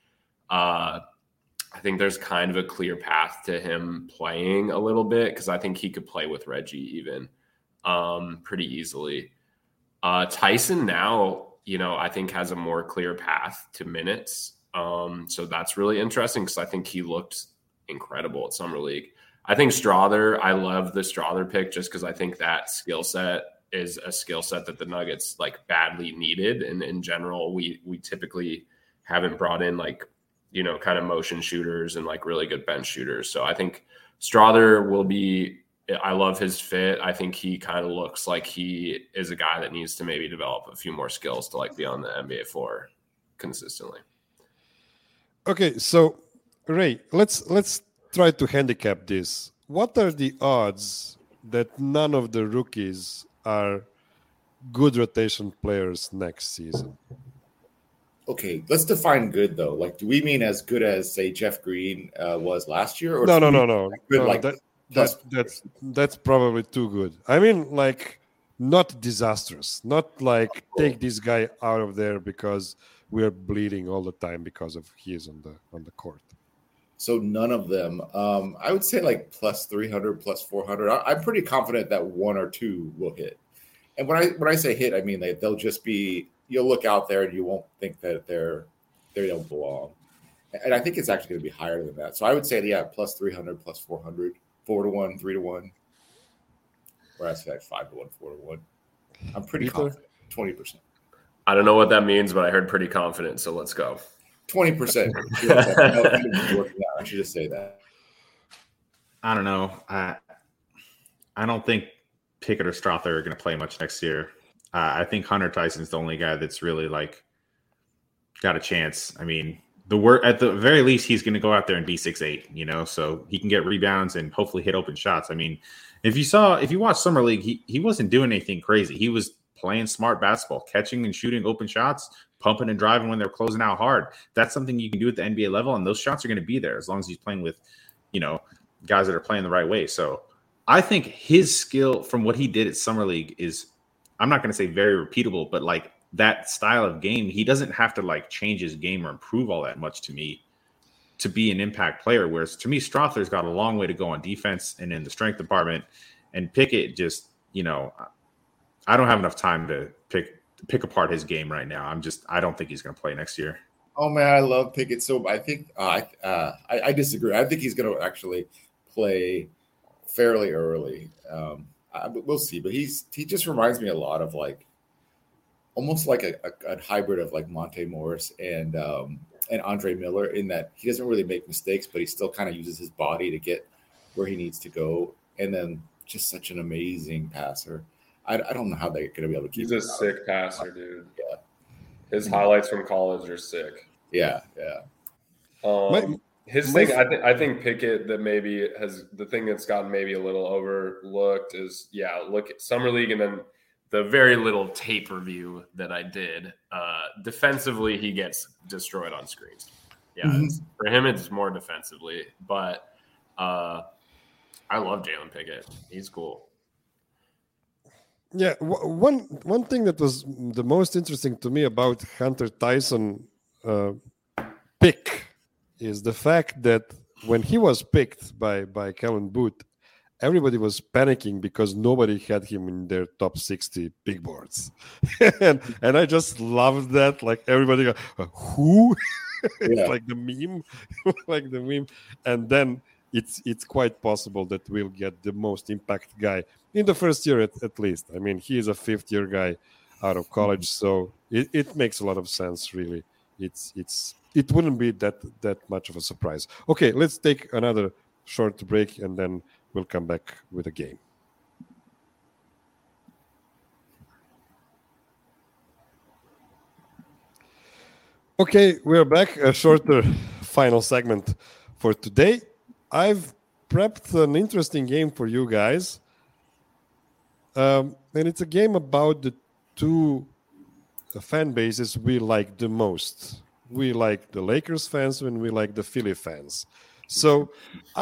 there's kind of a clear path to him playing a little bit because I think he could play with Reggie even pretty easily. Tyson now, you know, I think has a more clear path to minutes. So that's really interesting because I think he looked incredible at Summer League. I think Strawther, I love the Strawther pick just because I think that skill set is a skill set that the Nuggets like badly needed. And in general, we typically haven't brought in like, you know, kind of motion shooters and like really good bench shooters. So I think Strawther will be, I love his fit. I think he kind of looks like he is a guy that needs to maybe develop a few more skills to like be on the NBA floor consistently. Okay, so Ray, let's try to handicap this. What are the odds that none of the rookies are good rotation players next season? Okay, let's define good though. Like, do we mean as good as say Jeff Green was last year? Or No. Good, no like that's probably too good. I mean, like, not disastrous. Not like take this guy out of there because we're bleeding all the time because of he is on the court. So none of them. I would say like plus 300, plus 400. I'm pretty confident that one or two will hit. And when I say hit, I mean they'll just be. You'll look out there and you won't think that they don't belong. And I think it's actually going to be higher than that. So I would say, yeah, plus 300, plus 400, 4-1, 3-1. Or I say 5-1, 4-1. I'm pretty confident. 20%. I don't know what that means, but I heard pretty confident. So let's go. 20%. I should just say that. I don't know. I don't think Pickett or Strawther are going to play much next year. I think Hunter Tyson's the only guy that's really like got a chance. I mean, at the very least, he's going to go out there and be 6'8", you know, so he can get rebounds and hopefully hit open shots. I mean, if you watch Summer League, he wasn't doing anything crazy. He was playing smart basketball, catching and shooting open shots, pumping and driving when they're closing out hard. That's something you can do at the NBA level, and those shots are going to be there as long as he's playing with, you know, guys that are playing the right way. So I think his skill from what he did at Summer League is, I'm not going to say very repeatable, but like that style of game, he doesn't have to like change his game or improve all that much to me. to be an impact player. Whereas to me, Strother's got a long way to go on defense and in the strength department. And Pickett just, I don't have enough time to pick apart his game right now. I don't think he's going to play next year. Oh man, I love Pickett. So I think I disagree. I think he's going to actually play fairly early. We'll see, but he just reminds me a lot of like almost like a hybrid of like Monte Morris and Andre Miller, in that he doesn't really make mistakes, but he still kind of uses his body to get where he needs to go, and then just such an amazing passer. I don't know how they're going to be able to keep. He's a sick passer, dude. Yeah, his highlights from college are sick. Yeah. His thing, I think Pickett, that maybe has the thing that's gotten maybe a little overlooked is, look at Summer League and then the very little tape review that I did. Defensively, he gets destroyed on screens. Yeah, for him, it's more defensively. But I love Jalen Pickett. He's cool. Yeah, one thing that was the most interesting to me about Hunter Tyson pick is the fact that when he was picked by Kellen Booth, everybody was panicking because nobody had him in their top 60 big boards. and I just loved that. Like everybody go, who? It's like the meme. And then it's quite possible that we'll get the most impact guy in the first year at least. I mean, he is a fifth-year guy out of college, so it makes a lot of sense, really. It wouldn't be that much of a surprise. Okay, let's take another short break, and then we'll come back with a game. Okay, we're back. A shorter final segment for today. I've prepped an interesting game for you guys. And it's a game about the two fan bases we like the most. We like the Lakers fans and we like the Philly fans. So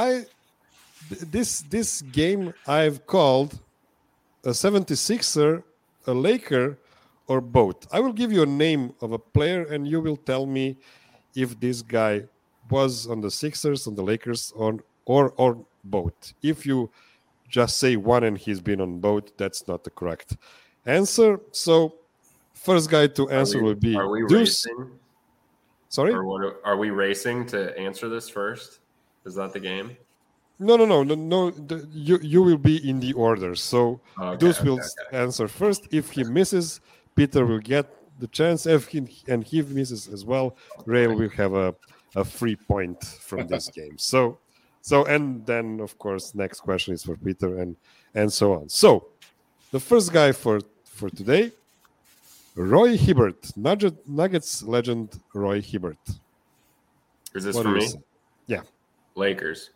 this game I've called a 76er, a Laker, or both. I will give you a name of a player and you will tell me if this guy was on the Sixers, on the Lakers, or both. If you just say one and he's been on both, that's not the correct answer. So first guy to answer will be Deuce. Racing? Sorry? Or are we racing to answer this first? Is that the game? No. You will be in the order. So Deuce will answer first. If he misses, Peter will get the chance. If he misses as well, Ray will have a free point from this game. So and then of course next question is for Peter and so on. So the first guy for today, Roy Hibbert, Nuggets legend Roy Hibbert. Is this for me? Yeah. Lakers.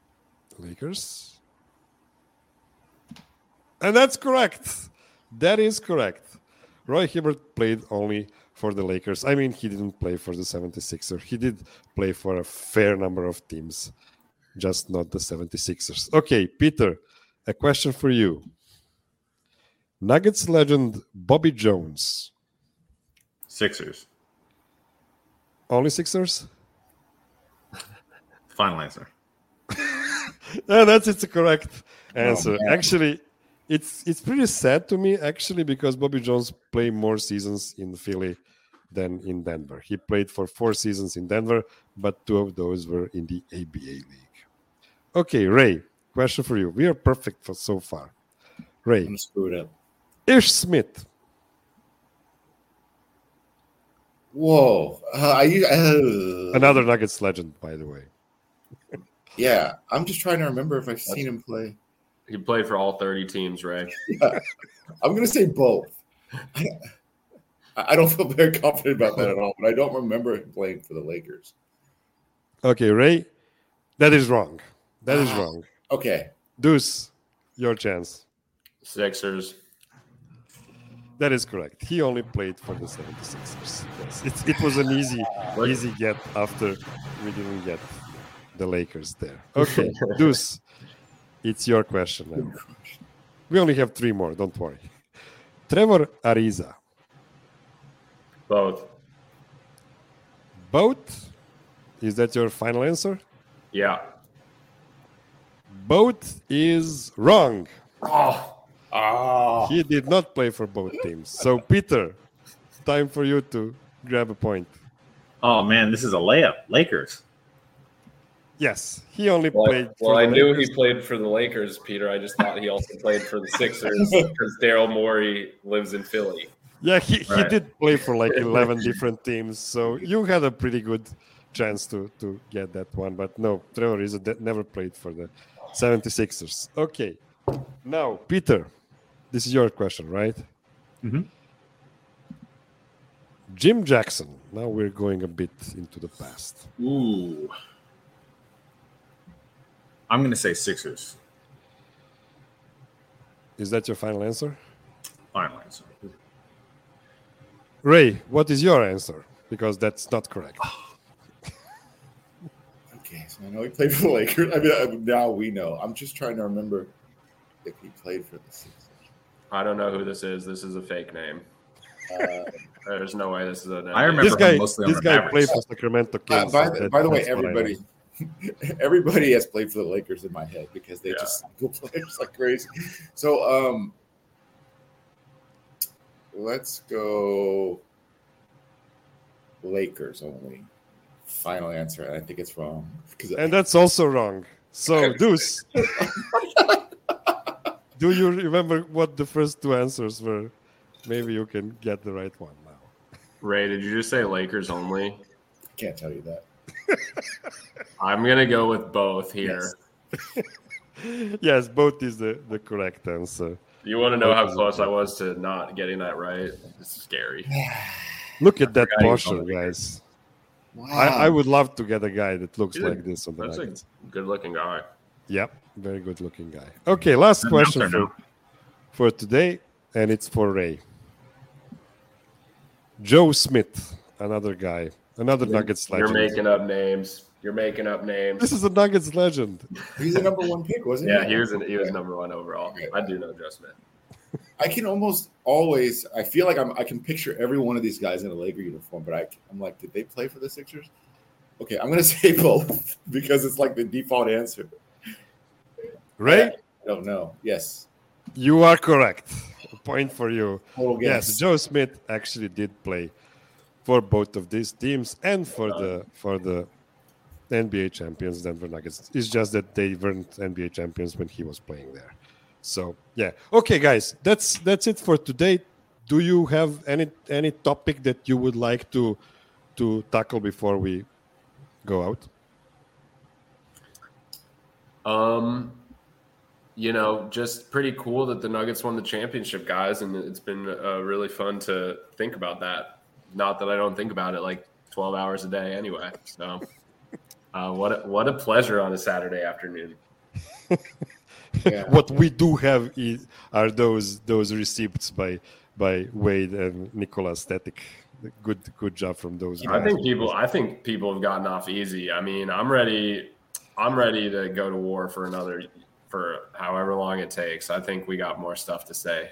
And that's correct. That is correct. Roy Hibbert played only for the Lakers. I mean, he didn't play for the 76ers. He did play for a fair number of teams, just not the 76ers. Okay, Peter, a question for you. Nuggets legend Bobby Jones. Sixers. Only Sixers? Final answer. No, that's a correct answer. Oh, actually, it's pretty sad to me, actually, because Bobby Jones played more seasons in Philly than in Denver. He played for 4 seasons in Denver, but 2 of those were in the ABA League. Okay, Ray, question for you. We are perfect for so far. Ray. I'm screwed up. Ish Smith. Whoa. Another Nuggets legend, by the way. Yeah, I'm just trying to remember if I've seen him play. He played for all 30 teams, Ray. Yeah. I'm going to say both. I don't feel very confident about that at all, but I don't remember him playing for the Lakers. Okay, Ray, that is wrong. That is wrong. Okay. Deuce, your chance. Sixers. That is correct. He only played for the 76ers. Yes, it was an easy get after we didn't get the Lakers there. Okay, Deuce, it's your question now. We only have 3 more, don't worry. Trevor Ariza. Both. Both Is that your final answer? Yeah. Both is wrong. Oh, He did not play for both teams. So, Peter, time for you to grab a point. Oh man, this is a layup. Lakers. Yes, he only well, played for well I the knew Lakers. he played for the Lakers, Peter. I just thought he also played for the Sixers because Daryl Morey lives in Philly. Yeah, he Right. did play for like 11 different teams. So you had a pretty good chance to get that one. But no, Trevor Ariza never played for the 76ers. Okay, now, Peter, this is your question, right? Mhm. Jim Jackson. Now we're going a bit into the past. Ooh. I'm gonna say Sixers. Is that your final answer? Final answer. Ray, what is your answer? Because that's not correct. Okay, so I know he played for the Lakers. I mean, now we know. I'm just trying to remember if he played for the Sixers. I don't know who this is. This is a fake name. There's no way this is a name. I remember This mostly on this the guy Mavericks. played for Sacramento Kings. By so the way, that's what I know. everybody has played for the Lakers in my head because they just go players like crazy. So let's go Lakers only. Final answer, and I think it's wrong. And that's also wrong. So, Deuce, do you remember what the first two answers were? Maybe you can get the right one now. Ray, did you just say Lakers only? Can't tell you that. I'm going to go with both here. Yes, both is the correct answer. You want to know how close I was to not getting that right? It's scary. Look at that forgot he was posture, on the guys. Wow. I would love to get a guy that looks He's a- like this on the That's Nuggets. a good-looking guy. Yep, very good looking guy. Okay, last question Announcer now. for today, and it's for Ray. Joe Smith, another guy, another Nuggets You're legend. making up names. You're making up names. This is a Nuggets legend. He's the number one pick, wasn't Yeah, he? he was number one overall. I do know Joe Smith. I can almost always. I feel like I can picture every one of these guys in a Laker uniform, but I'm like, did they play for the Sixers? Okay, I'm gonna say both because it's like the default answer. Ray, I don't know. Yes, you are correct. A point for you. total guess. Yes, Joe Smith actually did play for both of these teams and for the NBA champions Denver Nuggets. It's just that they weren't NBA champions when he was playing there. So yeah, okay, guys, that's it for today. Do you have any topic that you would like to tackle before we go out? Just pretty cool that the Nuggets won the championship, guys, and it's been really fun to think about that. Not that I don't think about it like 12 hours a day anyway. So what a pleasure on a Saturday afternoon. Yeah. What we do have are those receipts by Wade and Nicolas Static. Good job from those guys. I think people have gotten off easy. I mean, I'm ready to go to war for however long it takes. I think we got more stuff to say.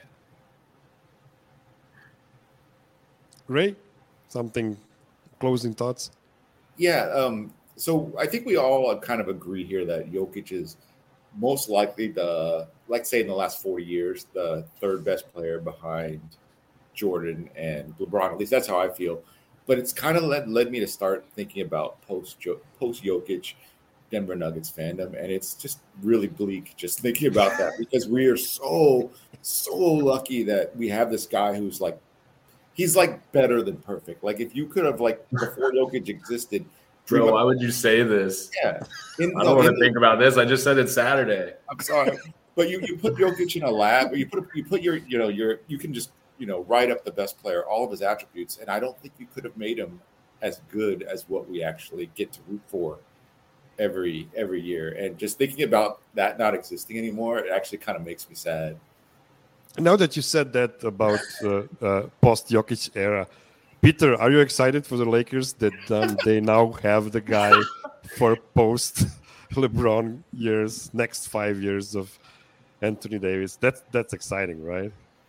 Ray, something closing thoughts? Yeah. So I think we all kind of agree here that Jokic is most likely say in the last 4 years, the third best player behind Jordan and LeBron. At least that's how I feel. But it's kind of led me to start thinking about post Jokic Denver Nuggets fandom, and it's just really bleak just thinking about that because we are so lucky that we have this guy who's like, he's like better than perfect. Like if you could have like before Jokic existed. Bro, why would you say this? Yeah. I don't want to think about this. I just said it's Saturday. I'm sorry. But you put Jokic in a lab, you put your you can just, write up the best player, all of his attributes. And I don't think you could have made him as good as what we actually get to root for every year. And just thinking about that not existing anymore, it actually kind of makes me sad. Now that you said that about post Jokic era, Peter, are you excited for the Lakers that they now have the guy for post LeBron years, next 5 years of Anthony Davis? That's exciting, right?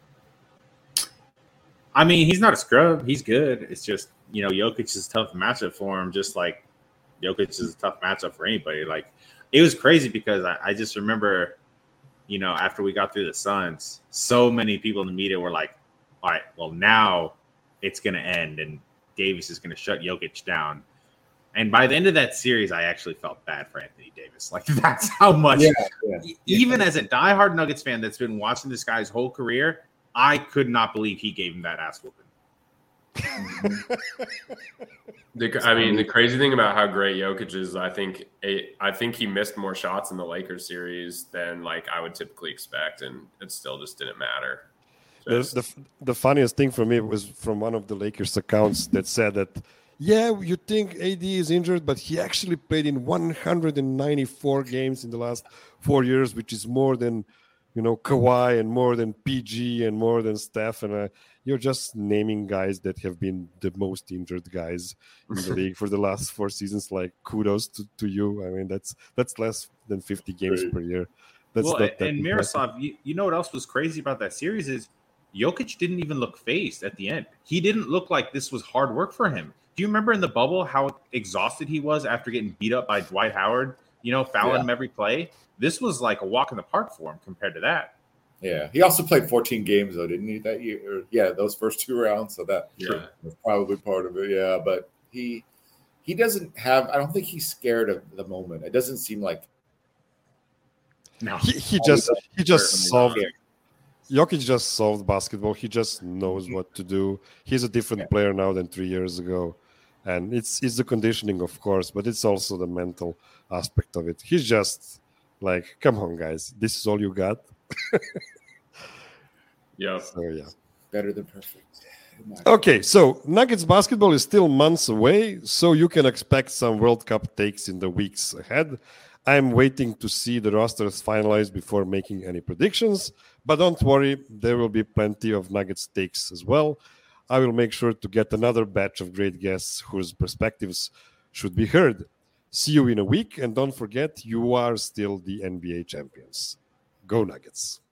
I mean, he's not a scrub. He's good. It's just, Jokic is a tough matchup for him, just like Jokic is a tough matchup for anybody. Like, it was crazy because I just remember, after we got through the Suns, so many people in the media were like, all right, well, now it's going to end and Davis is going to shut Jokic down. And by the end of that series, I actually felt bad for Anthony Davis. Like, that's how much, even as a diehard Nuggets fan that's been watching this guy's whole career, I could not believe he gave him that ass whooping. The crazy thing about how great Jokic is, I think he missed more shots in the Lakers series than like I would typically expect, and it still just didn't matter. The funniest thing for me was from one of the Lakers accounts that said that, yeah, you think AD is injured, but he actually played in 194 games in the last 4 years, which is more than, Kawhi and more than PG and more than Steph. And you're just naming guys that have been the most injured guys in the league for the last 4 seasons. Like, kudos to you. I mean, that's less than 50 games per year. That's and Miroslav, you know what else was crazy about that series is Jokic didn't even look phased at the end. He didn't look like this was hard work for him. Do you remember in the bubble how exhausted he was after getting beat up by Dwight Howard, fouling him every play? This was like a walk in the park for him compared to that. Yeah. He also played 14 games, though, didn't he, that year? Yeah, those first 2 rounds. So that was probably part of it. Yeah, but he doesn't have – I don't think he's scared of the moment. It doesn't seem like – No. He just solved – Jokic just solved basketball. He just knows what to do. He's a different player now than 3 years ago. And it's the conditioning, of course, but it's also the mental aspect of it. He's just like, come on, guys. This is all you got? Yeah. So, yeah. Better than perfect. Okay, so Nuggets basketball is still months away, so you can expect some World Cup takes in the weeks ahead. I'm waiting to see the rosters finalized before making any predictions, but don't worry, there will be plenty of Nuggets takes as well. I will make sure to get another batch of great guests whose perspectives should be heard. See you in a week, and don't forget, you are still the NBA champions. Go Nuggets.